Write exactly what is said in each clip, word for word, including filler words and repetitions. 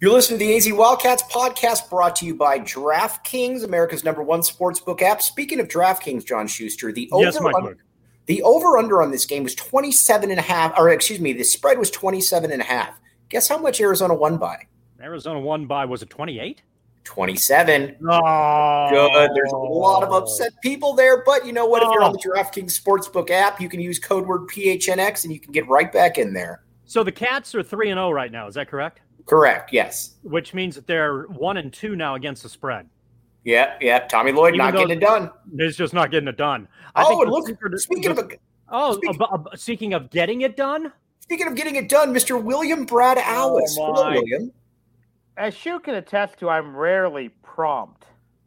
You're listening to the A Z Wildcats podcast brought to you by DraftKings, America's number one sportsbook app. Speaking of DraftKings, John Schuster, the over yes, under, the over under on this game was twenty-seven and a half, or excuse me, the spread was twenty-seven and a half. Guess how much Arizona won by? Arizona won by, was it twenty-eight? twenty-seven. Oh. Good. There's a lot of upset people there, but you know what? If you're on the DraftKings Sportsbook app, you can use code word P H N X and you can get right back in there. So the Cats are three and oh right now, is that correct? Correct, yes. Which means that they're one and two now against the spread. Yeah, yeah. Tommy Lloyd Even not getting it done. He's just not getting it done. I oh, think and look, secret, speaking of a, oh, speaking, uh, uh, speaking of getting it done. Speaking of getting it done, Mister William Brad Alice. Oh, Hello, William. As Shu can attest to, I'm rarely prompt.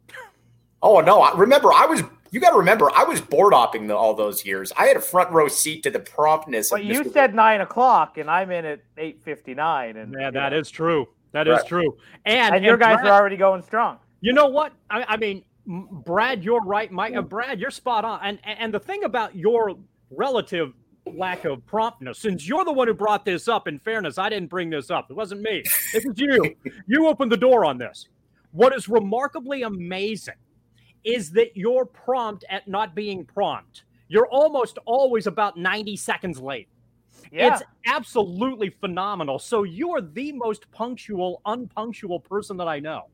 Oh no! I, remember, I was. You got to remember, I was board hopping the, all those years. I had a front row seat to the promptness. But of you Mister said nine o'clock, and I'm in at eight fifty-nine. And yeah, that know. is true. That right. is true. And, and your and guys Brad, are already going strong. You know what? I, I mean, Brad, you're right. Mike, uh, Brad, you're spot on. And and the thing about your relative lack of promptness, since you're the one who brought this up, in fairness, I didn't bring this up. It wasn't me. It was you. You opened the door on this. What is remarkably amazing is that you're prompt at not being prompt. You're almost always about ninety seconds late. Yeah. It's absolutely phenomenal. So you are the most punctual, unpunctual person that I know.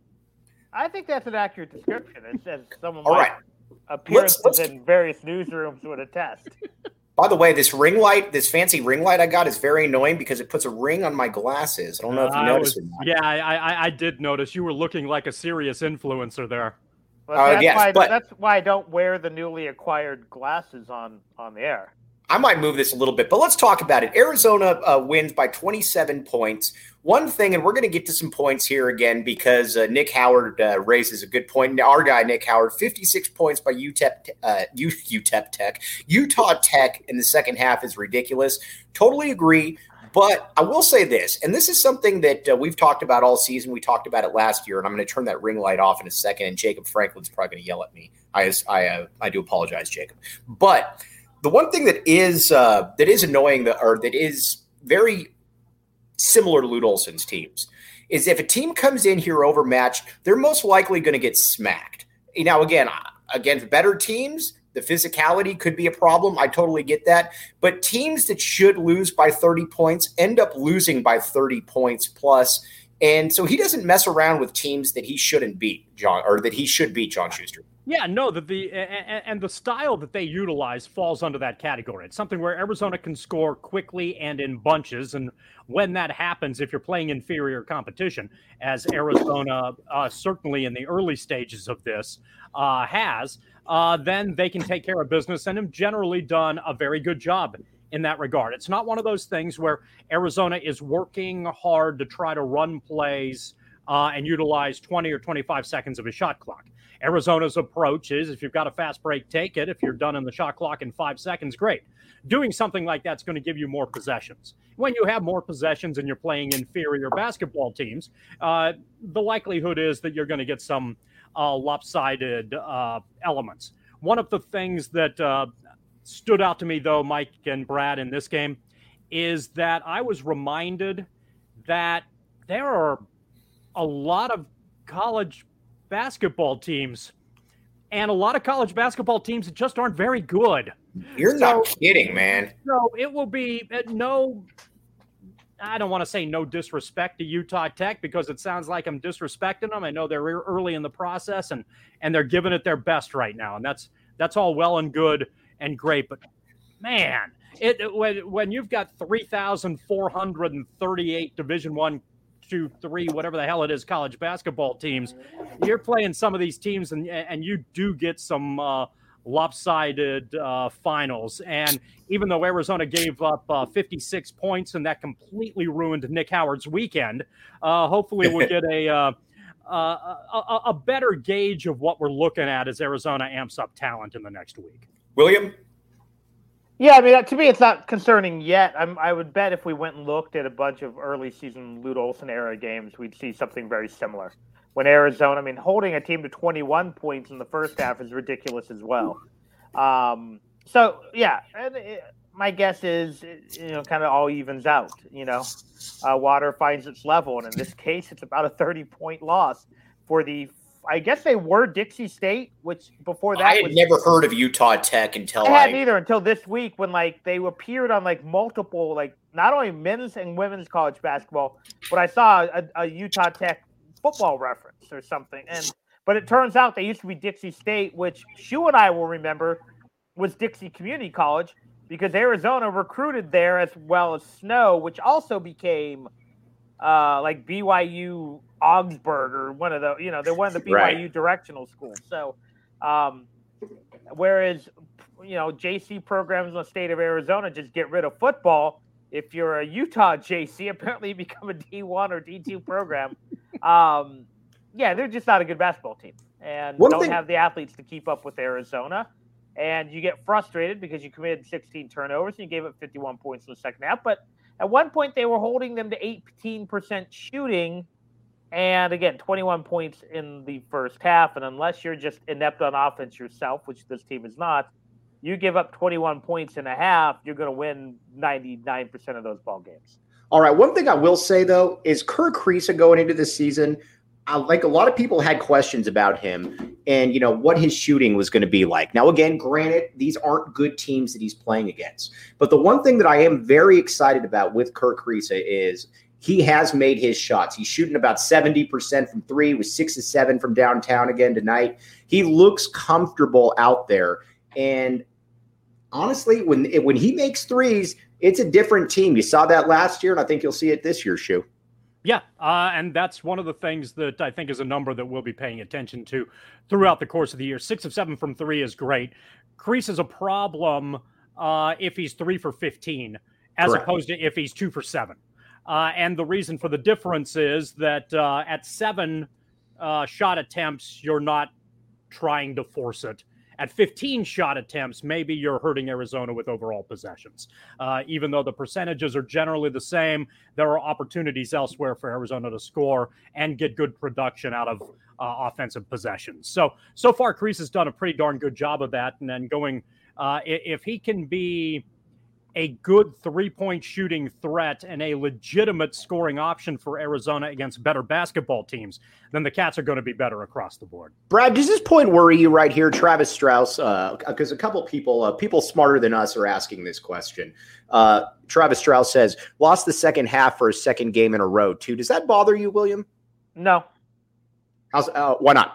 I think that's an accurate description. It says some of All my right. appearances let's, let's... in various newsrooms would attest. By the way, this ring light, this fancy ring light I got is very annoying because it puts a ring on my glasses. I don't know if you I noticed was, it. Or not. Yeah, I, I, I did notice. You were looking like a serious influencer there. But uh, that's, yes, why, but, that's why I don't wear the newly acquired glasses on, on the air. I might move this a little bit, but let's talk about it. Arizona uh, wins by twenty-seven points. One thing, and we're going to get to some points here again because uh, Nick Howard uh, raises a good point. Our guy, Nick Howard, fifty-six points by U T E P, uh, U T E P Tech. Utah Tech in the second half is ridiculous. Totally agree. But I will say this, and this is something that uh, we've talked about all season. We talked about it last year, and I'm going to turn that ring light off in a second, and Jacob Franklin's probably going to yell at me. I I, uh, I do apologize, Jacob. But the one thing that is uh, that is annoying, that, or that is very similar to Lute Olson's teams, is if a team comes in here overmatched, they're most likely going to get smacked. Now, again, against better teams, the physicality could be a problem. I totally get that. But teams that should lose by thirty points end up losing by thirty points plus. And so he doesn't mess around with teams that he shouldn't beat, John, or that he should beat, John Schuster. Yeah, no, the, the and, and the style that they utilize falls under that category. It's something where Arizona can score quickly and in bunches. And when that happens, if you're playing inferior competition, as Arizona uh, certainly in the early stages of this uh, has, uh, then they can take care of business and have generally done a very good job in that regard. It's not one of those things where Arizona is working hard to try to run plays uh, and utilize twenty or twenty-five seconds of a shot clock. Arizona's approach is, if you've got a fast break, take it. If you're done in the shot clock in five seconds, great. Doing something like that's going to give you more possessions. When you have more possessions and you're playing inferior basketball teams, uh, the likelihood is that you're going to get some uh, lopsided uh, elements. One of the things that uh, stood out to me, though, Mike and Brad, in this game, is that I was reminded that there are a lot of college basketball teams and a lot of college basketball teams that just aren't very good. You're so, not kidding, man. So it will be uh, no, I don't want to say no disrespect to Utah Tech because it sounds like I'm disrespecting them. I know they're early in the process and, and they're giving it their best right now. And that's, that's all well and good and great, but man, it, it when, when you've got three thousand four hundred thirty-eight Division One two, three, whatever the hell it is, college basketball teams, you're playing some of these teams and and you do get some uh, lopsided uh, finals. And even though Arizona gave up uh, fifty-six points and that completely ruined Nick Howard's weekend, uh, hopefully we'll get a, uh, uh, a a better gauge of what we're looking at as Arizona amps up talent in the next week. William? Yeah, I mean, to me, it's not concerning yet. I'm, I would bet if we went and looked at a bunch of early season Lute Olson era games, we'd see something very similar. When Arizona, I mean, holding a team to twenty-one points in the first half is ridiculous as well. Um, so, yeah, and it, my guess is, you know, kind of all evens out. You know, uh, water finds its level, and in this case, it's about a thirty-point loss for the. I guess they were Dixie State, which before that I had was, never heard of Utah Tech until I I hadn't either until this week when like they appeared on like multiple like not only men's and women's college basketball, but I saw a, a Utah Tech football reference or something. And but it turns out they used to be Dixie State, which Shu and I will remember was Dixie Community College because Arizona recruited there as well as Snow, which also became uh, like B Y U Augsburg or one of the, you know, they're one of the B Y U right. directional schools. So, um, whereas, you know, J C programs in the state of Arizona just get rid of football. If you're a Utah J C, apparently you become a D one or D two program. um, yeah, they're just not a good basketball team and one don't thing- have the athletes to keep up with Arizona. And you get frustrated because you committed sixteen turnovers and you gave up fifty-one points in the second half. But at one point, they were holding them to eighteen percent shooting. And again, twenty-one points in the first half. And unless you're just inept on offense yourself, which this team is not, you give up twenty-one points in a half, you're going to win ninety-nine percent of those ball games. All right. One thing I will say, though, is Kerr Kriisa going into this season, I, like a lot of people had questions about him and, you know, what his shooting was going to be like. Now, again, granted, these aren't good teams that he's playing against. But the one thing that I am very excited about with Kerr Kriisa is he has made his shots. He's shooting about seventy percent from three with six to seven from downtown again tonight. He looks comfortable out there. And honestly, when when he makes threes, it's a different team. You saw that last year, and I think you'll see it this year, Shu. Yeah, uh, and that's one of the things that I think is a number that we'll be paying attention to throughout the course of the year. Six of seven from three is great. Kriisa is a problem uh, if he's three for fifteen, as Correct. opposed to if he's two for seven. Uh, and the reason for the difference is that uh, at seven uh, shot attempts, you're not trying to force it. At fifteen shot attempts, maybe you're hurting Arizona with overall possessions. Uh, even though the percentages are generally the same, there are opportunities elsewhere for Arizona to score and get good production out of uh, offensive possessions. So, so far, Kriisa has done a pretty darn good job of that. And then going, uh, if he can be a good three-point shooting threat and a legitimate scoring option for Arizona against better basketball teams, then the Cats are going to be better across the board. Brad, does this point worry you right here, Travis Strauss? Because uh, a couple people, uh, people smarter than us are asking this question. Uh, Travis Strauss says, lost the second half for a second game in a row, too. Does that bother you, William? No. How's, uh, why not?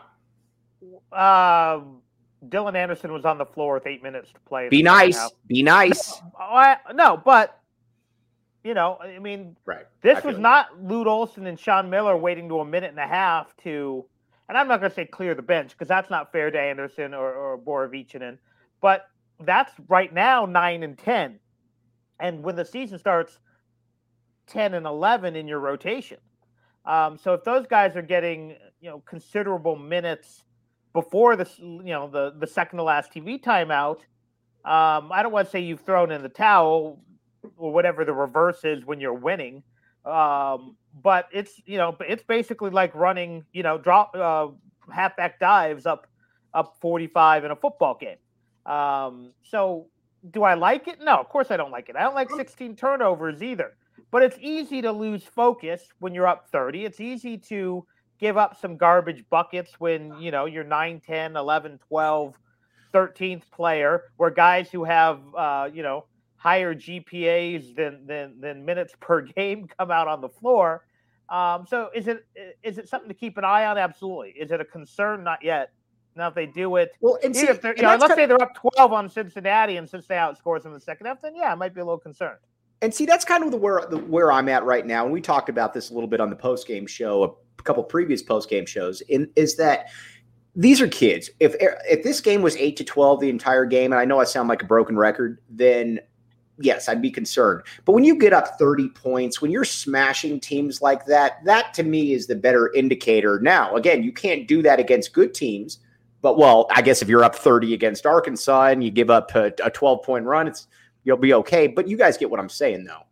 Um. Dylan Anderson was on the floor with eight minutes to play. Be nice. Be nice. No, I, no, but, you know, I mean, right. this was not Lute Olson and Sean Miller waiting to a minute and a half to, and I'm not going to say clear the bench because that's not fair to Anderson or, or Borovichinen, but that's right now nine and ten. And when the season starts, ten and eleven in your rotation. Um, so if those guys are getting, you know, considerable minutes before the you know the the second to last T V timeout, um, I don't want to say you've thrown in the towel or whatever the reverse is when you're winning, um, but it's you know it's basically like running you know drop uh, halfback dives up up forty-five in a football game. Um, so do I like it? No, of course I don't like it. I don't like sixteen turnovers either. But it's easy to lose focus when you're up thirty. It's easy to give up some garbage buckets when, you know, you're nine, ten, eleven, twelve, thirteenth player, where guys who have, uh, you know, higher G P As than, than, than minutes per game come out on the floor. Um, so is it is it something to keep an eye on? Absolutely. Is it a concern? Not yet. Now, if they do it, well, and see, if they're, you know, let's say they're up twelve on Cincinnati and Cincinnati outscores them in the second half, then yeah, I might be a little concerned. And see, that's kind of the where the, where I'm at right now. And we talked about this a little bit on the post-game show, a couple previous post-game shows, in, is that these are kids. If if this game was eight to twelve the entire game, and I know I sound like a broken record, then yes, I'd be concerned. But when you get up thirty points, when you're smashing teams like that, that to me is the better indicator. Now, again, you can't do that against good teams. But, well, I guess if you're up thirty against Arkansas and you give up a twelve-point run, it's you'll be okay. But you guys get what I'm saying, though.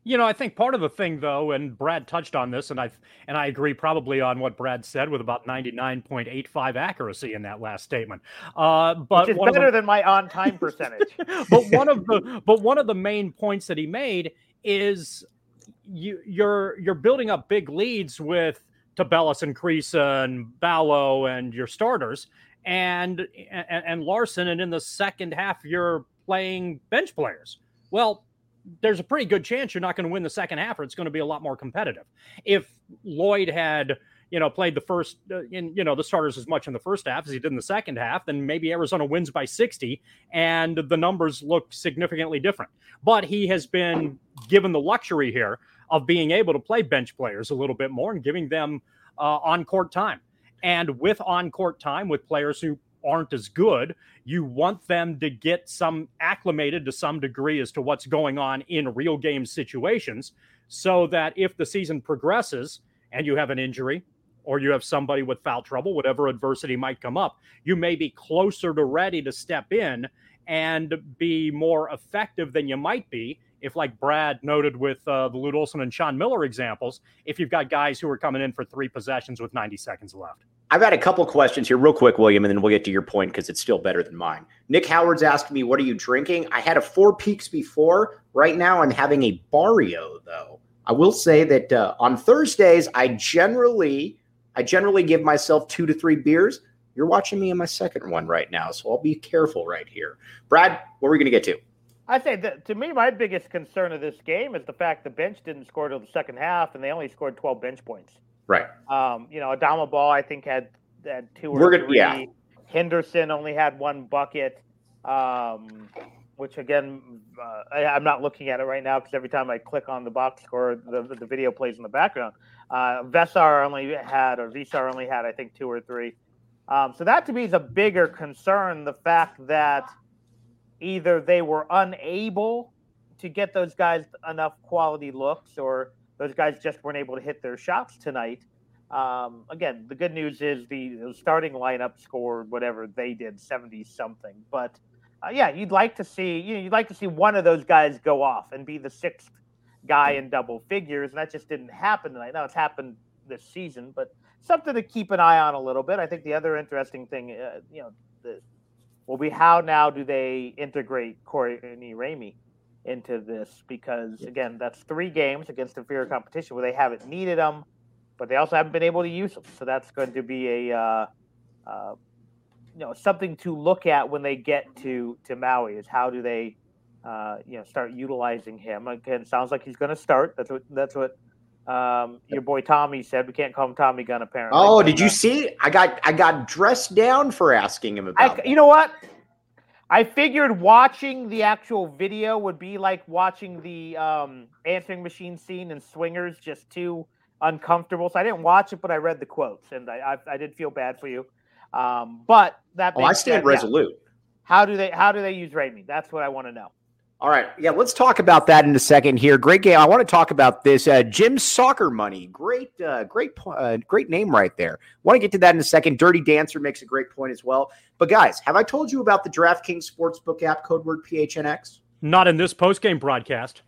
You know, I think part of the thing, though, and Brad touched on this, and I and I agree probably on what Brad said with about ninety-nine point eight five accuracy in that last statement. Uh, but Which is one better of the, than my on-time percentage. but one of the but one of the main points that he made is you you're you're building up big leads with Tabellus and Kriisa and Ballo and your starters and, and and Larson, and in the second half you're playing bench players. Well, there's a pretty good chance you're not going to win the second half, or it's going to be a lot more competitive. If Lloyd had, you know, played the first, uh, in, you know, the starters as much in the first half as he did in the second half, then maybe Arizona wins by sixty and the numbers look significantly different. But he has been given the luxury here of being able to play bench players a little bit more and giving them uh, on-court time. And with on-court time, with players who aren't as good, you want them to get some acclimated to some degree as to what's going on in real game situations, so that if the season progresses and you have an injury or you have somebody with foul trouble, whatever adversity might come up, you may be closer to ready to step in and be more effective than you might be if, like Brad noted with uh, the Lute Olson and Sean Miller examples, if you've got guys who are coming in for three possessions with ninety seconds left. I've got a couple questions here real quick, William, and then we'll get to your point because it's still better than mine. Nick Howard's asking me, what are you drinking? I had a Four Peaks before. Right now I'm having a Barrio, though. I will say that uh, on Thursdays, I generally I generally give myself two to three beers. You're watching me in my second one right now, so I'll be careful right here. Brad, what are we going to get to? I say that to me, my biggest concern of this game is the fact the bench didn't score till the second half, and they only scored twelve bench points. Right. Um, you know, Adama Ball, I think, had, had two or We're gonna, three. Yeah. Henderson only had one bucket, um, which, again, uh, I, I'm not looking at it right now because every time I click on the box score, the, the video plays in the background. Uh, Vesar only had, or Vesar only had, I think, two or three. Um, so that, to me, is a bigger concern, the fact that either they were unable to get those guys enough quality looks, or those guys just weren't able to hit their shots tonight. Um, again, the good news is the, the starting lineup scored whatever they did, seventy something. But uh, yeah, you'd like to see you know you'd like to see one of those guys go off and be the sixth guy in double figures, and that just didn't happen tonight. Now it's happened this season, but something to keep an eye on a little bit. I think the other interesting thing, uh, you know, the, will be how now do they integrate Corey Ramey into this, because again, that's three games against inferior competition where they haven't needed them, but they also haven't been able to use them. So that's going to be a uh, uh, you know something to look at when they get to to Maui, is how do they uh, you know start utilizing him. Again, sounds like he's going to start. That's what that's what um, your boy Tommy said. We can't call him Tommy Gun apparently. Oh, but, did you uh, see? I got I got dressed down for asking him about. I, you know what? I figured watching the actual video would be like watching the um, answering machine scene in Swingers, just too uncomfortable. So I didn't watch it, but I read the quotes, and I I, I did feel bad for you. Um, but that Oh, I stand said, resolute. Yeah. How do they how do they use Ramey? That's what I want to know. All right. Yeah, let's talk about that in a second here. Great game. I want to talk about this. Uh, Jim's Soccer Money. Great, uh, great, uh, great name right there. Want to get to that in a second. Dirty Dancer makes a great point as well. But guys, have I told you about the DraftKings Sportsbook app, code word P H N X? Not in this post-game broadcast.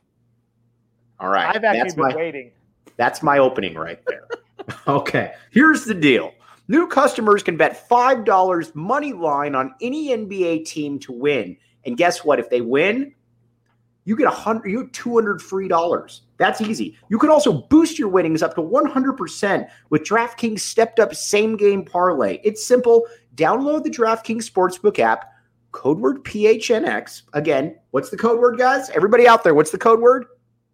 All right. I've actually that's been my, waiting. That's my opening right there. Okay. Here's the deal. New customers can bet five dollars money line on any N B A team to win. And guess what? If they win, you get a hundred, you get two hundred free dollars. That's easy. You can also boost your winnings up to one hundred percent with DraftKings stepped up same game parlay. It's simple. Download the DraftKings Sportsbook app, code word P H N X. Again, what's the code word, guys? Everybody out there, what's the code word?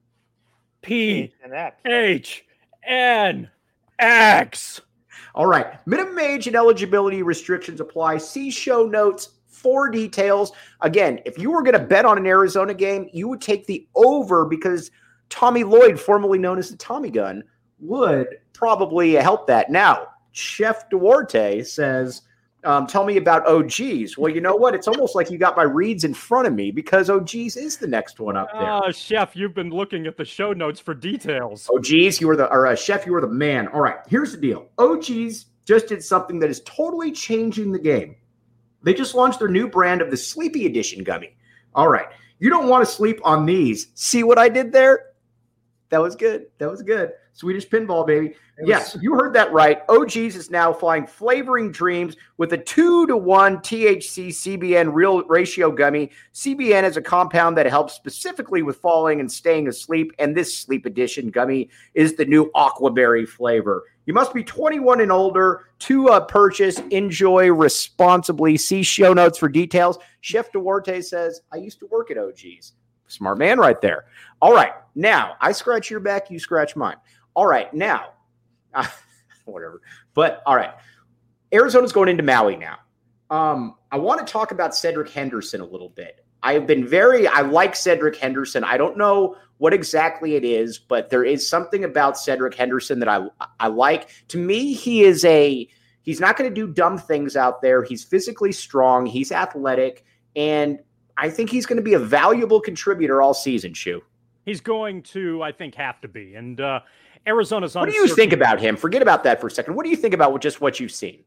P H N X. All right. Minimum age and eligibility restrictions apply. See show notes for details. Again, if you were going to bet on an Arizona game, you would take the over because Tommy Lloyd, formerly known as the Tommy Gun, would probably help that. Now, Chef Duarte says, um, tell me about O Gs. Well, you know what? It's almost like you got my reads in front of me because O Gs is the next one up there. Oh, Chef, you've been looking at the show notes for details. O Gs, you were the, or uh, Chef, you were the man. All right, here's the deal. O Gs just did something that is totally changing the game. They just launched their new brand of the Sleepy Edition gummy. All right. You don't want to sleep on these. See what I did there? That was good. That was good. Swedish pinball, baby. Yes, you heard that right. O G's is now flying Flavoring Dreams with a two to one T H C C B N real ratio gummy. C B N is a compound that helps specifically with falling and staying asleep, and this sleep edition gummy is the new aquaberry flavor. You must be twenty-one and older to uh, purchase. Enjoy responsibly. See show notes for details. Chef Duarte says, I used to work at O G's. Smart man right there. All right. Now, I scratch your back, you scratch mine. All right. Now, uh, whatever. But, all right. Arizona's going into Maui now. Um, I want to talk about Cedric Henderson a little bit. I have been very – I like Cedric Henderson. I don't know what exactly it is, but there is something about Cedric Henderson that I I like. To me, he is a – he's not going to do dumb things out there. He's physically strong. He's athletic. And I think he's going to be a valuable contributor all season, Shu. He's going to, I think, have to be. And uh, Arizona's What do you think about him? Forget about that for a second. What do you think about just what you've seen?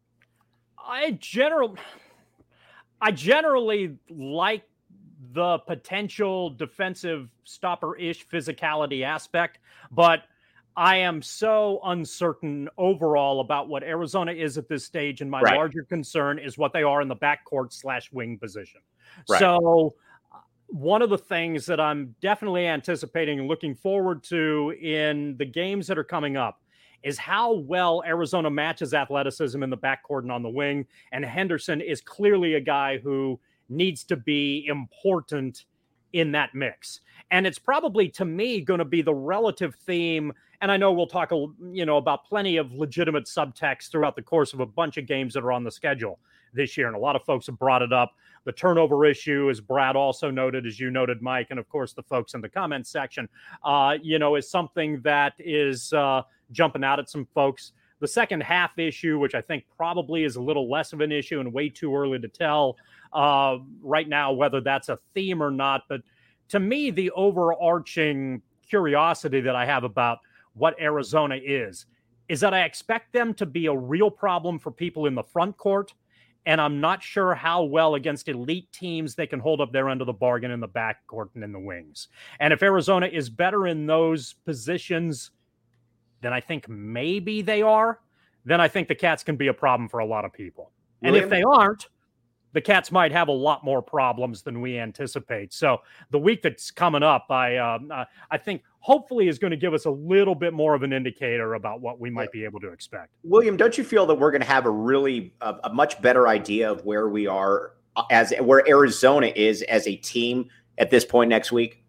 I general, I generally like the potential defensive stopper-ish physicality aspect, but I am so uncertain overall about what Arizona is at this stage, and my right. larger concern is what they are in the backcourt slash wing position. Right. So one of the things that I'm definitely anticipating and looking forward to in the games that are coming up is how well Arizona matches athleticism in the backcourt and on the wing. And Henderson is clearly a guy who needs to be important in that mix. And it's probably, to me, going to be the relative theme. And I know we'll talk, you know, about plenty of legitimate subtext throughout the course of a bunch of games that are on the schedule this year. And a lot of folks have brought it up. The turnover issue, as Brad also noted, as you noted, Mike, and of course the folks in the comments section, uh, you know, is something that is uh, jumping out at some folks. The second half issue, which I think probably is a little less of an issue and way too early to tell uh, right now whether that's a theme or not. But to me, the overarching curiosity that I have about what Arizona is, is that I expect them to be a real problem for people in the front court. And I'm not sure how well against elite teams they can hold up their end of the bargain in the backcourt and in the wings. And if Arizona is better in those positions than I think maybe they are, then I think the Cats can be a problem for a lot of people. And William? if they aren't, the Cats might have a lot more problems than we anticipate. So the week that's coming up, I uh, uh, I think hopefully is going to give us a little bit more of an indicator about what we might be able to expect. William, don't you feel that we're going to have a really a, a much better idea of where we are as where Arizona is as a team at this point next week?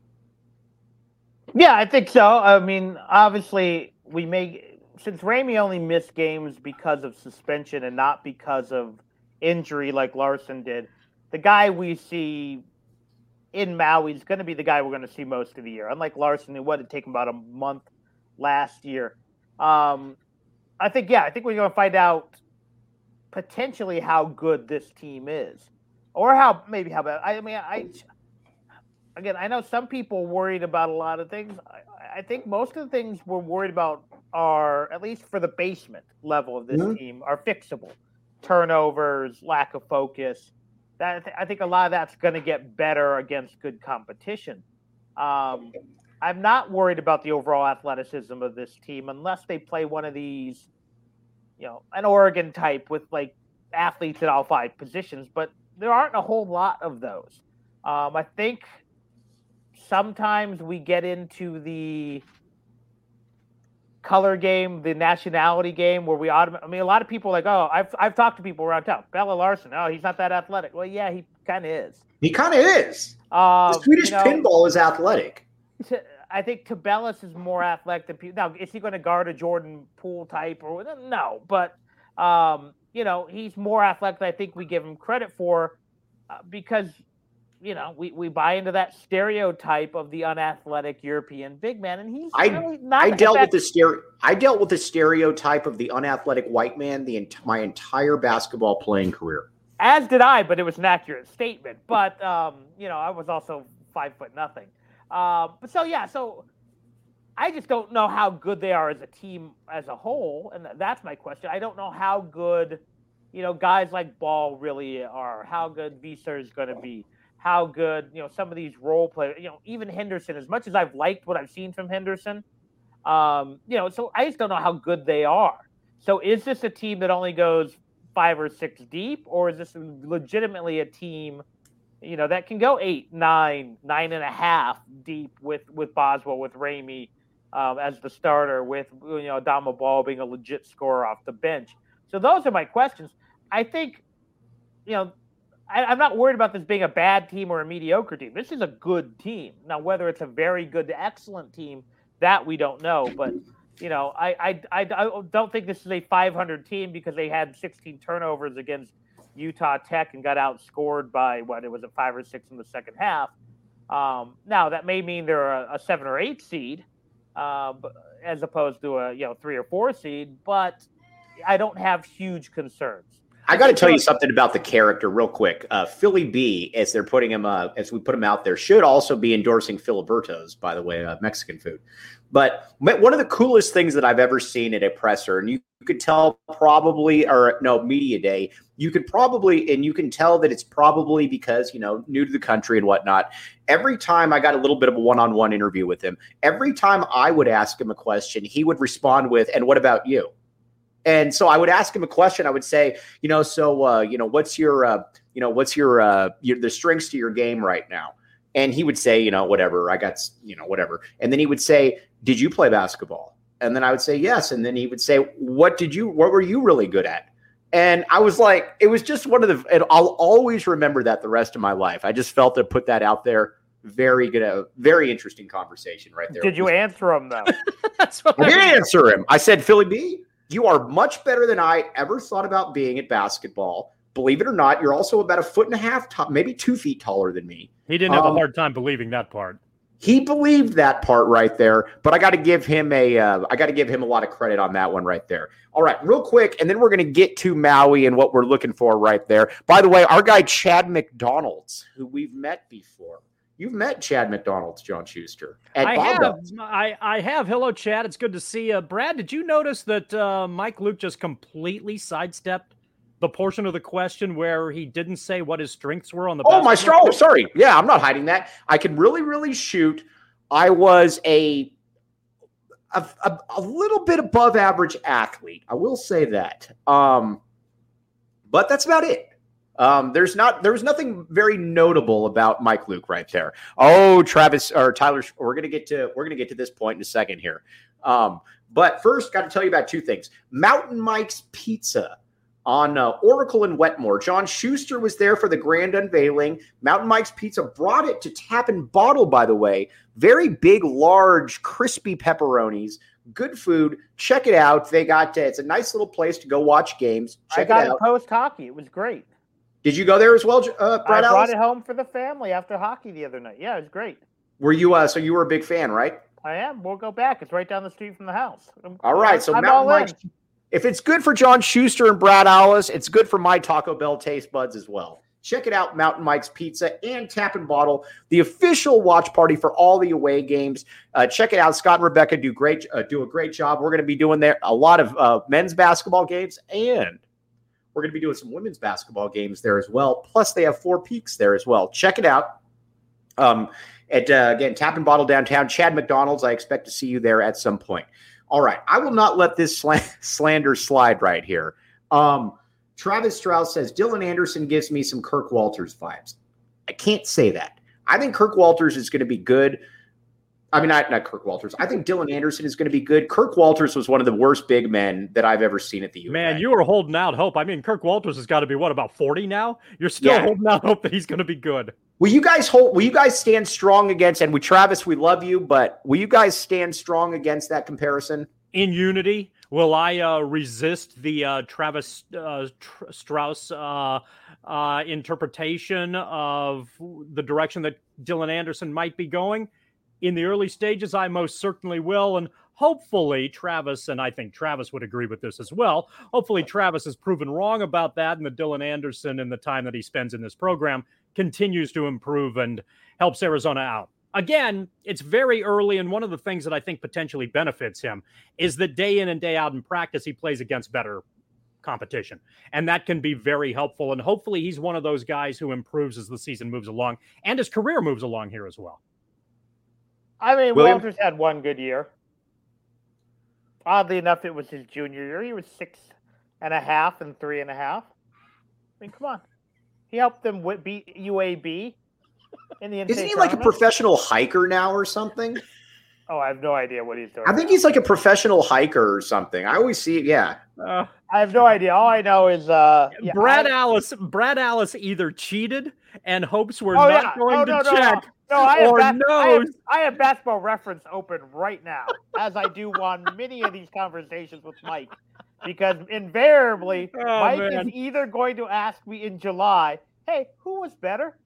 Yeah, I think so. I mean, obviously we may, since Ramey only missed games because of suspension and not because of injury like Larson did, the guy we see in Maui is going to be the guy we're going to see most of the year. Unlike Larson, it would take him about a month last year. Um, I think, yeah, I think we're going to find out potentially how good this team is, or how maybe how bad. I mean, I again, I know some people worried about a lot of things. I, I think most of the things we're worried about are, at least for the basement level of this mm-hmm. team, are fixable. Turnovers, lack of focus. That I think a lot of that's going to get better against good competition. Um, I'm not worried about the overall athleticism of this team unless they play one of these, you know, an Oregon type with like athletes at all five positions. But there aren't a whole lot of those. Um, I think sometimes we get into the color game, the nationality game, where we autom- I mean, a lot of people are like, oh, I've I've talked to people around town. Bella Larson, oh, he's not that athletic. Well, yeah, he kind of is. He kind of is. Uh, the Swedish you know, pinball is athletic. I think Tabellis is more athletic than people. Now, is he going to guard a Jordan Poole type or no? But um, you know, he's more athletic than I think we give him credit for, uh, because you know, we, we buy into that stereotype of the unathletic European big man, and he's I, really not. I dealt with the stere- I dealt with the stereotype of the unathletic white man the ent- my entire basketball playing career. As did I, but it was an accurate statement. But um, you know, I was also five foot nothing. Uh, but so yeah, so I just don't know how good they are as a team as a whole, and that's my question. I don't know how good, you know, guys like Ball really are. How good Visser is going to be. how good, you know, some of these role players, you know, even Henderson, as much as I've liked what I've seen from Henderson, um, you know, so I just don't know how good they are. So is this a team that only goes five or six deep, or is this legitimately a team, you know, that can go eight, nine, nine and a half deep with, with Boswell, with Ramey um, as the starter, with, you know, Adama Ball being a legit scorer off the bench? So those are my questions. I think, you know, I, I'm not worried about this being a bad team or a mediocre team. This is a good team. Now, whether it's a very good to excellent team, that we don't know, but you know, I, I, I, I don't think this is a five hundred team because they had sixteen turnovers against Utah Tech and got outscored by, what, it was a five or six in the second half. Um, now, that may mean they're a, a seven or eight seed uh, as opposed to a, you know, three or four seed, but I don't have huge concerns. I got to tell you something about the character real quick. Uh, Philly B, as they're putting him, uh, as we put him out there, should also be endorsing Filiberto's, by the way, uh, Mexican food. But one of the coolest things that I've ever seen at a presser, and you could tell probably, or no, media day, you could probably, and you can tell that it's probably because, you know, new to the country and whatnot. Every time I got a little bit of a one-on-one interview with him, every time I would ask him a question, he would respond with, "And what about you?" And so I would ask him a question. I would say, you know, so, uh, you know, what's your, uh, you know, what's your, uh, your, the strengths to your game right now? And he would say, you know, whatever, I got, you know, whatever. And then he would say, did you play basketball? And then I would say, yes. And then he would say, what did you, what were you really good at? And I was like, it was just one of the, and I'll always remember that the rest of my life. I just felt to put that out there. Very good, uh, very interesting conversation right there. Did you answer him though? That's what I did answer him. I said, Philly B, you are much better than I ever thought about being at basketball. Believe it or not, you're also about a foot and a half, top, maybe two feet taller than me. He didn't have um, a hard time believing that part. He believed that part right there, but I got to give him a, uh, I got to give him a lot of credit on that one right there. All right, real quick, and then we're going to get to Maui and what we're looking for right there. By the way, our guy Chad McDonald's, who we've met before. You've met Chad McDonald's, John Schuster. At I Bob have. Bell's. I, I have. Hello, Chad. It's good to see you. Brad, did you notice that uh, Mike Luke just completely sidestepped the portion of the question where he didn't say what his strengths were on the Oh, my basketball straw. court? Sorry. Yeah, I'm not hiding that. I can really, really shoot. I was a, a, a, a little bit above average athlete. I will say that. Um, but that's about it. Um, there's not, there was nothing very notable about Mike Luke right there. Oh, Travis or Tyler, we're going to get to, we're going to get to this point in a second here. Um, but first got to tell you about two things. Mountain Mike's Pizza on uh, Oracle and Wetmore. John Schuster was there for the grand unveiling. Mountain Mike's Pizza brought it to Tap and Bottle, by the way. Very big, large, crispy pepperonis. Good food. Check it out. They got, uh, it's a nice little place to go watch games. Check I got it out. it post hockey. It was great. Did you go there as well, uh, Brad I brought Ellis? it home for the family after hockey the other night. Yeah, it was great. Were you, uh, so you were a big fan, right? I am. We'll go back. It's right down the street from the house. I'm, All right. So I'm Mountain all Mike's, in. if it's good for John Schuster and Brad Ellis, it's good for my Taco Bell taste buds as well. Check it out, Mountain Mike's Pizza and Tap and Bottle, the official watch party for all the away games. Uh, check it out. Scott and Rebecca do great, uh, do a great job. We're going to be doing there a lot of uh, men's basketball games, and we're going to be doing some women's basketball games there as well. Plus, they have Four Peaks there as well. Check it out. Um, at uh, again, Tap and Bottle downtown. Chad McDonald's. I expect to see you there at some point. All right, I will not let this sl- slander slide right here. Um, Travis Strauss says, Dylan Anderson gives me some Kirk Walters vibes. I can't say that. I think Kirk Walters is going to be good. I mean, not, not Kirk Walters. I think Dylan Anderson is going to be good. Kirk Walters was one of the worst big men that I've ever seen at the U of A. Man, you were holding out hope. I mean, Kirk Walters has got to be, what, about forty now? You're still Yeah. holding out hope that he's going to be good. Will you guys hold? Will you guys stand strong against? And we, Travis, we love you, but will you guys stand strong against that comparison? In unity, will I uh, resist the uh, Travis uh, Tr- Strauss uh, uh, interpretation of the direction that Dylan Anderson might be going? In the early stages, I most certainly will, and hopefully Travis, and I think Travis would agree with this as well, hopefully Travis is proven wrong about that, and that Dylan Anderson, in the time that he spends in this program, continues to improve and helps Arizona out. Again, it's very early, and one of the things that I think potentially benefits him is that day in and day out in practice, he plays against better competition. And that can be very helpful. And hopefully he's one of those guys who improves as the season moves along and his career moves along here as well. I mean, William? Walters had one good year. Oddly enough, it was his junior year. He was six and a half and three and a half. I mean, come on. He helped them with beat U A B in the N C A A Isn't he like a tournament. professional hiker now or something? Oh, I have no idea what he's doing. I think now. he's like a professional hiker or something. I always see it. Yeah. Uh, I have no idea. All I know is uh, yeah, Brad I, Alice. Brad Alice either cheated and hopes we're oh, not yeah. going oh, to no, no, check, no, no. I have or bas- I have, knows. I have Basketball Reference open right now, as I do on many of these conversations with Mike, because invariably Oh, Mike man. is either going to ask me in July, "Hey, who was better?"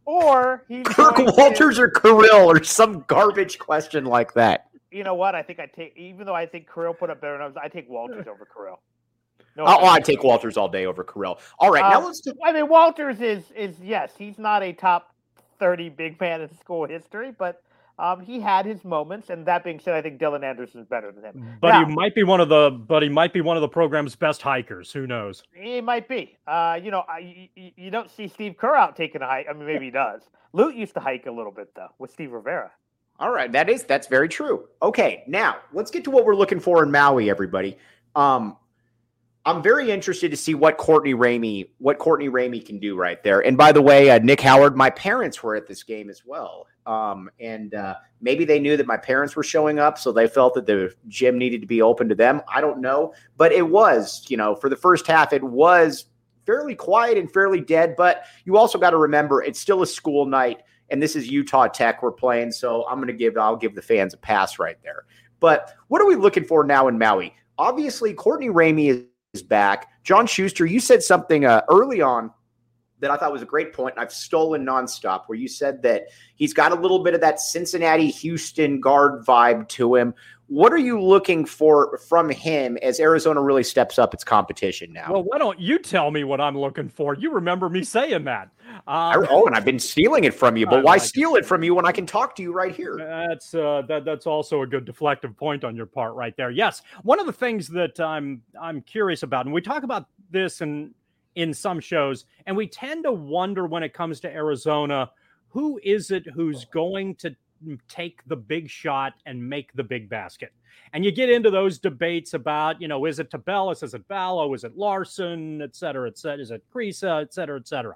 or he's Kirk going to- Walters or Kirill or some garbage question like that. You know what? I think I take, even though I think Kirill put up better numbers, I take Walters over Kirill. No, Oh, I take Walters all day over Kirill. All right, now Um, let's do. I mean, Walters is is yes, he's not a top thirty big man in school history, but um, he had his moments. And that being said, I think Dylan Anderson is better than him. But Now, he might be one of the. But he might be one of the program's best hikers. Who knows? he might be. Uh, you know, I, you, you don't see Steve Kerr out taking a hike. I mean, maybe he does. Lute used to hike a little bit though with Steve Rivera. All right, that is that's very true. Okay, now let's get to what we're looking for in Maui, everybody. Um, I'm very interested to see what Courtney Ramey, what Courtney Ramey can do right there. And by the way, uh, Nick Howard, my parents were at this game as well, um, and uh, maybe they knew that my parents were showing up, so they felt that the gym needed to be open to them. I don't know, but it was, you know, for the first half, it was fairly quiet and fairly dead. But you also got to remember, it's still a school night. And this is Utah Tech we're playing, so I'm going to give I'll give the fans a pass right there. But what are we looking for now in Maui? Obviously, Courtney Ramey is, is back. John Schuster, you said something uh, early on that I thought was a great point, and I've stolen nonstop, where you said that he's got a little bit of that Cincinnati, Houston guard vibe to him. What are you looking for from him as Arizona really steps up its competition now? Well, why don't you tell me what I'm looking for? You remember me saying that. I, Uh, oh, and I've been stealing it from you, but I why like steal it from you when I can talk to you right here? That's uh, that. That's also a good deflective point on your part, right there. Yes, one of the things that I'm I'm curious about, and we talk about this in in some shows, and we tend to wonder when it comes to Arizona, who is it who's going to take the big shot and make the big basket? And you get into those debates about, you know, is it Tabellis, is it Ballo, is it Larson, et cetera, et cetera, is it Kriisa, et cetera, et cetera.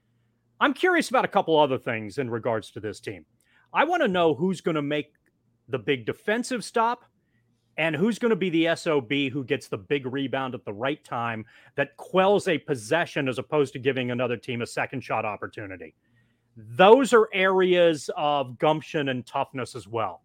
I'm curious about a couple other things in regards to this team. I want to know who's going to make the big defensive stop and who's going to be the S O B who gets the big rebound at the right time that quells a possession as opposed to giving another team a second shot opportunity. Those are areas of gumption and toughness as well.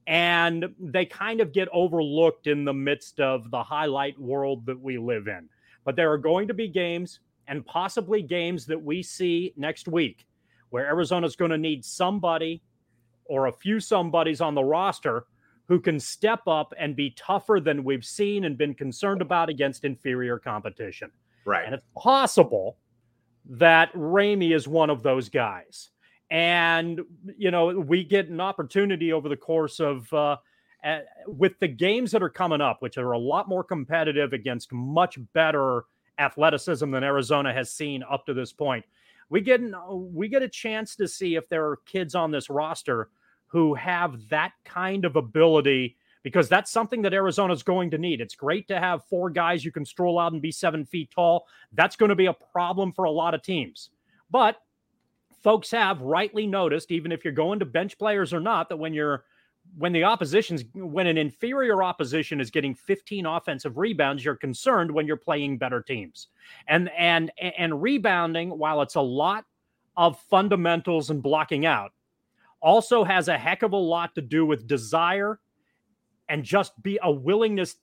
And they kind of get overlooked in the midst of the highlight world that we live in. But there are going to be games, and possibly games that we see next week, where Arizona's going to need somebody or a few somebodies on the roster who can step up and be tougher than we've seen and been concerned about against inferior competition. Right. And it's possible that Ramey is one of those guys. And, you know, we get an opportunity over the course of, uh, uh, with the games that are coming up, which are a lot more competitive against much better athleticism than Arizona has seen up to this point. We get, we get a chance to see if there are kids on this roster who have that kind of ability, because that's something that Arizona's going to need. It's great to have four guys you can stroll out and be seven feet tall. That's going to be a problem for a lot of teams. But folks have rightly noticed, even if you're going to bench players or not, that when you're when the opposition's when an inferior opposition is getting fifteen offensive rebounds, you're concerned when you're playing better teams. And and and rebounding, while it's a lot of fundamentals and blocking out, also has a heck of a lot to do with desire and just be a willingness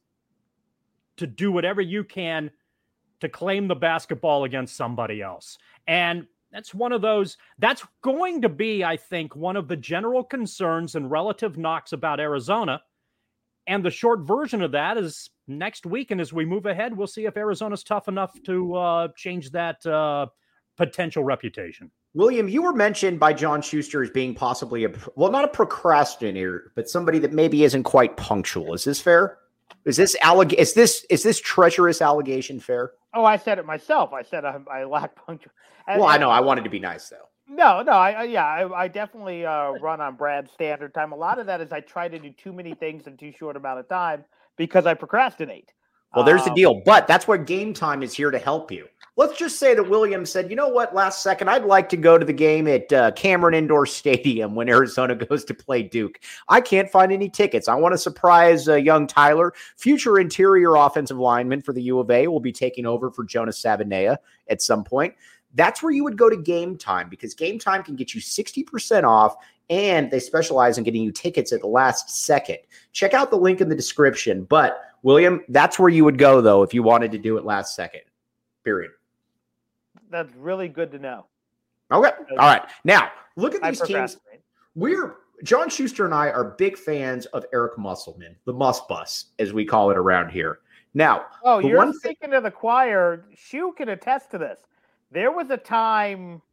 to do whatever you can to claim the basketball against somebody else. And that's one of those, that's going to be, I think, one of the general concerns and relative knocks about Arizona. And the short version of that is next week. And as we move ahead, we'll see if Arizona's tough enough to uh, change that uh, potential reputation. William, you were mentioned by John Schuster as being possibly a, well, not a procrastinator, but somebody that maybe isn't quite punctual. Is this fair? Is this alleg- Is this is this treacherous allegation fair? Oh, I said it myself. I said I, I lack punctuation. Well, I know. I wanted to be nice, though. No, no, I, I yeah, I, I definitely uh, run on Brad's standard time. A lot of that is I try to do too many things in too short amount of time because I procrastinate. Well, there's the Um, deal. But that's where Game Time is here to help you. Let's just say that William said, you know what, last second, I'd like to go to the game at uh, Cameron Indoor Stadium when Arizona goes to play Duke. I can't find any tickets. I want to surprise uh, young Tyler. Future interior offensive lineman for the U of A will be taking over for Jonas Savanea at some point. That's where you would go to Game Time, because Game Time can get you sixty percent off, and they specialize in getting you tickets at the last second. Check out the link in the description. But, William, that's where you would go, though, if you wanted to do it last second. Period. That's really good to know. Okay. All right. Now, look at I these teams. procrastinate. We're John Schuster and I are big fans of Eric Musselman, the Muss Bus, as we call it around here. Now, Oh, the you're one speaking to the choir. Shu can attest to this. There was a time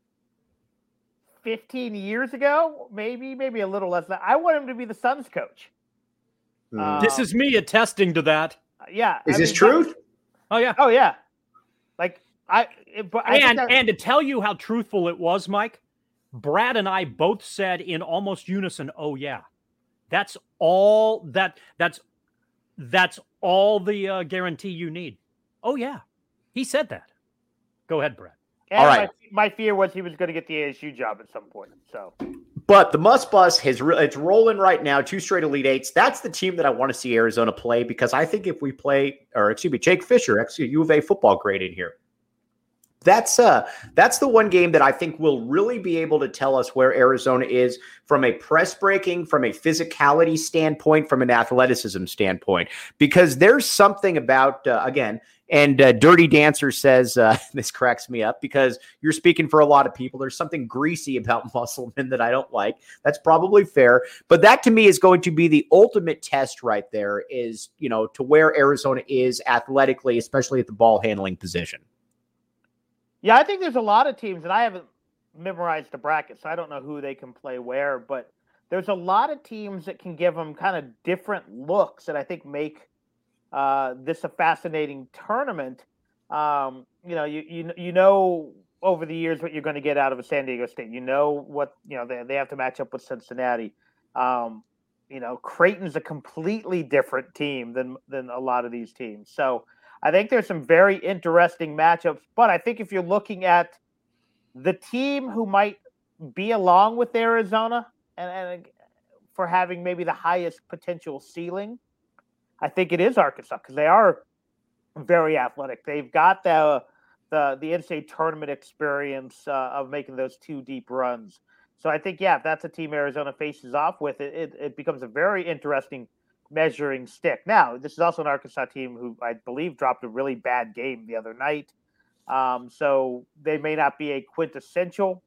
fifteen years ago, maybe, maybe a little less than that. I want him to be the Suns coach. Hmm. Uh, This is me attesting to that. Yeah. is I this mean, true? but- Oh yeah. oh, yeah. Like, I, it- but I think And that- and to tell you how truthful it was, Mike, Brad and I both said in almost unison, "Oh yeah, that's all that that's that's all the uh, guarantee you need." Oh yeah, he said that. Go ahead, Brad. and all right. my, my fear was he was going to get the A S U job at some point. So, But the Muss Bus has re- it's rolling right now, two straight Elite Eights. That's the team that I want to see Arizona play, because I think if we play, or excuse me, Jake Fisher, excuse U of A football grade in here. That's uh that's the one game that I think will really be able to tell us where Arizona is from a press breaking, from a physicality standpoint, from an athleticism standpoint, because there's something about uh, again. And uh, Dirty Dancer says, uh, this cracks me up because you're speaking for a lot of people. There's something greasy about Musselman that I don't like. That's probably fair. But that to me is going to be the ultimate test right there, is, you know, to where Arizona is athletically, especially at the ball handling position. yeah, I think there's a lot of teams, and I haven't memorized the bracket, so I don't know who they can play where, but there's a lot of teams that can give them kind of different looks that I think make uh, this a fascinating tournament. Um, you know, you, you you know over the years what you're going to get out of a San Diego State. You know what, you know, they, they have to match up with Cincinnati. Um, you know, Creighton's a completely different team than than a lot of these teams. So I think there's some very interesting matchups. But I think if you're looking at the team who might be along with Arizona and, and for having maybe the highest potential ceiling, I think it is Arkansas, because they are very athletic. They've got the the the N C double A tournament experience uh, of making those two deep runs. So I think, yeah, if that's a team Arizona faces off with, it, it, it becomes a very interesting measuring stick. Now, this is also an Arkansas team who I believe dropped a really bad game the other night. Um, so they may not be a quintessential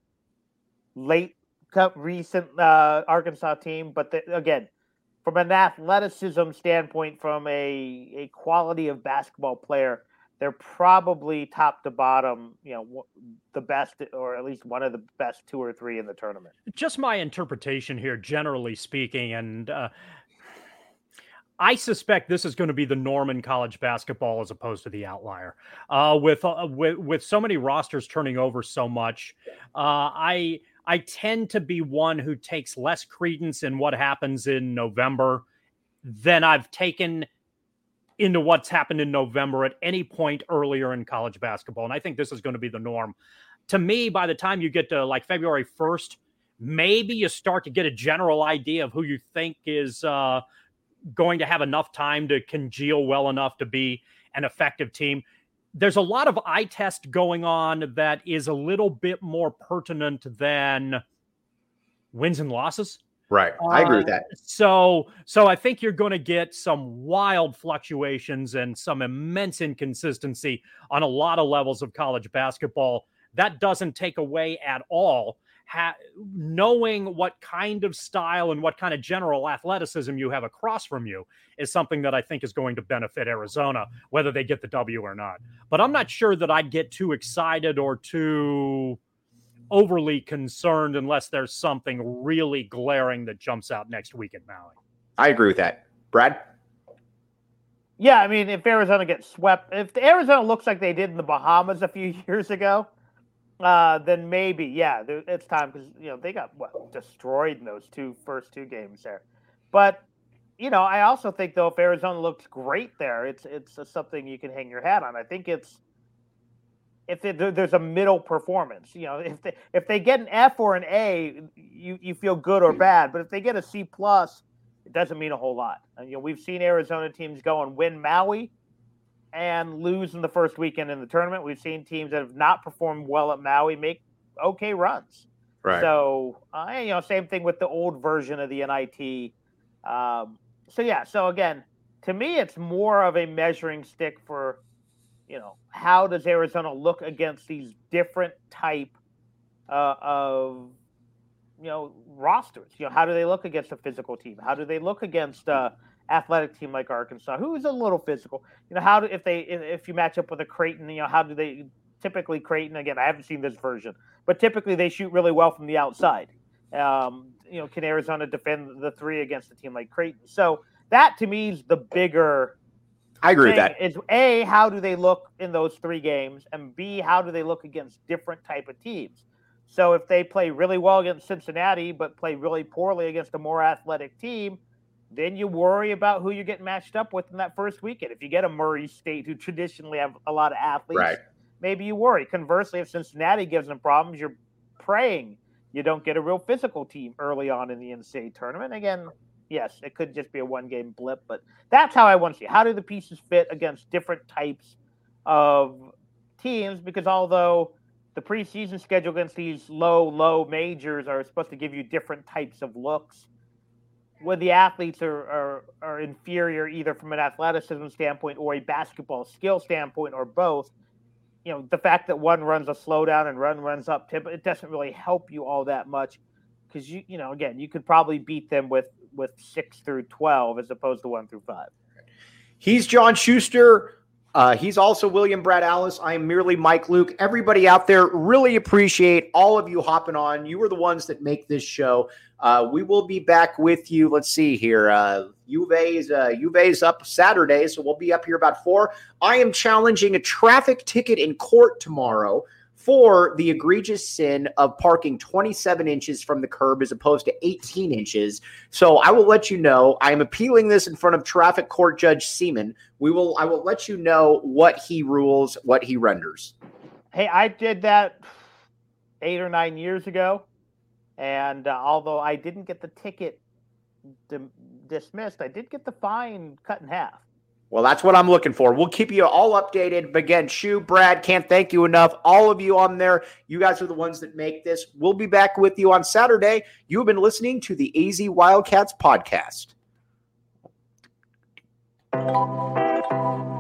late cup recent uh, Arkansas team, but the, again, from an athleticism standpoint, from a, a quality of basketball player, they're probably top to bottom, you know, the best, or at least one of the best two or three in the tournament. Just my interpretation here, generally speaking, and uh, I suspect this is going to be the norm in college basketball as opposed to the outlier. Uh, with, uh, with with so many rosters turning over so much, uh, I I tend to be one who takes less credence in what happens in November than I've taken into what's happened in November at any point earlier in college basketball. And I think this is going to be the norm. To me, by the time you get to like February first, maybe you start to get a general idea of who you think is uh, going to have enough time to congeal well enough to be an effective team. There's a lot of eye test going on that is a little bit more pertinent than wins and losses. Right. I agree with that. Uh, so, so I think you're going to get some wild fluctuations and some immense inconsistency on a lot of levels of college basketball. That doesn't take away at all ha- knowing what kind of style and what kind of general athleticism you have across from you is something that I think is going to benefit Arizona, whether they get the W or not. But I'm not sure that I'd get too excited or too overly concerned unless there's something really glaring that jumps out next week at Maui. I agree with that. Brad? Yeah, I mean, if Arizona gets swept, if Arizona looks like they did in the Bahamas a few years ago, uh, then maybe, yeah, it's time because, you know, they got, what, destroyed in those two first two games there. But, you know, I also think, though, if Arizona looks great there, it's it's a, something you can hang your hat on. I think it's, if it, there's a middle performance, you know, if they, if they get an F or an A, you, you feel good or bad. But if they get a C plus, it doesn't mean a whole lot. And, you know, we've seen Arizona teams go and win Maui and lose in the first weekend in the tournament. We've seen teams that have not performed well at Maui make okay runs. Right. So, uh, you know, same thing with the old version of the N I T. Um, so, yeah. So, again, to me, it's more of a measuring stick for, you know, how does Arizona look against these different type uh, of, you know, rosters? You know, how do they look against a physical team? How do they look against a athletic team like Arkansas, who's a little physical? You know, how do if they if you match up with a Creighton, you know, how do they typically Creighton? Again, I haven't seen this version, but typically they shoot really well from the outside. Um, you know, can Arizona defend the three against a team like Creighton? So that to me is the bigger. I agree with that. Is A, how do they look in those three games, and B, how do they look against different type of teams? So if they play really well against Cincinnati, but play really poorly against a more athletic team, then you worry about who you get matched up with in that first weekend. If you get a Murray State, who traditionally have a lot of athletes, right, maybe you worry. Conversely, if Cincinnati gives them problems, you're praying you don't get a real physical team early on in the N C double A tournament. Again, yes, it could just be a one-game blip, but that's how I want to see. How do the pieces fit against different types of teams? Because although the preseason schedule against these low, low majors are supposed to give you different types of looks, when the athletes are, are, are inferior either from an athleticism standpoint or a basketball skill standpoint or both, you know, the fact that one runs a slowdown and one runs up tip, it doesn't really help you all that much because, you you know, again, you could probably beat them with, with six through twelve as opposed to one through five. He's John Schuster. Uh, he's also William Brad Alice. I am merely Mike Luke. Everybody out there, really appreciate all of you hopping on. You are the ones that make this show. Uh, we will be back with you. Let's see here. Uh, Juve's, uh, Juve's up Saturday, so we'll be up here about four. I am challenging a traffic ticket in court tomorrow for the egregious sin of parking twenty-seven inches from the curb as opposed to eighteen inches. So I will let you know. I am appealing this in front of traffic court Judge Seaman. We will. I will let you know what he rules, what he renders. Hey, I did that eight or nine years ago, and uh, although I didn't get the ticket di- dismissed, I did get the fine cut in half. Well, that's what I'm looking for. We'll keep you all updated. But again, Shu, Brad, can't thank you enough. All of you on there, you guys are the ones that make this. We'll be back with you on Saturday. You have been listening to the A Z Wildcats podcast.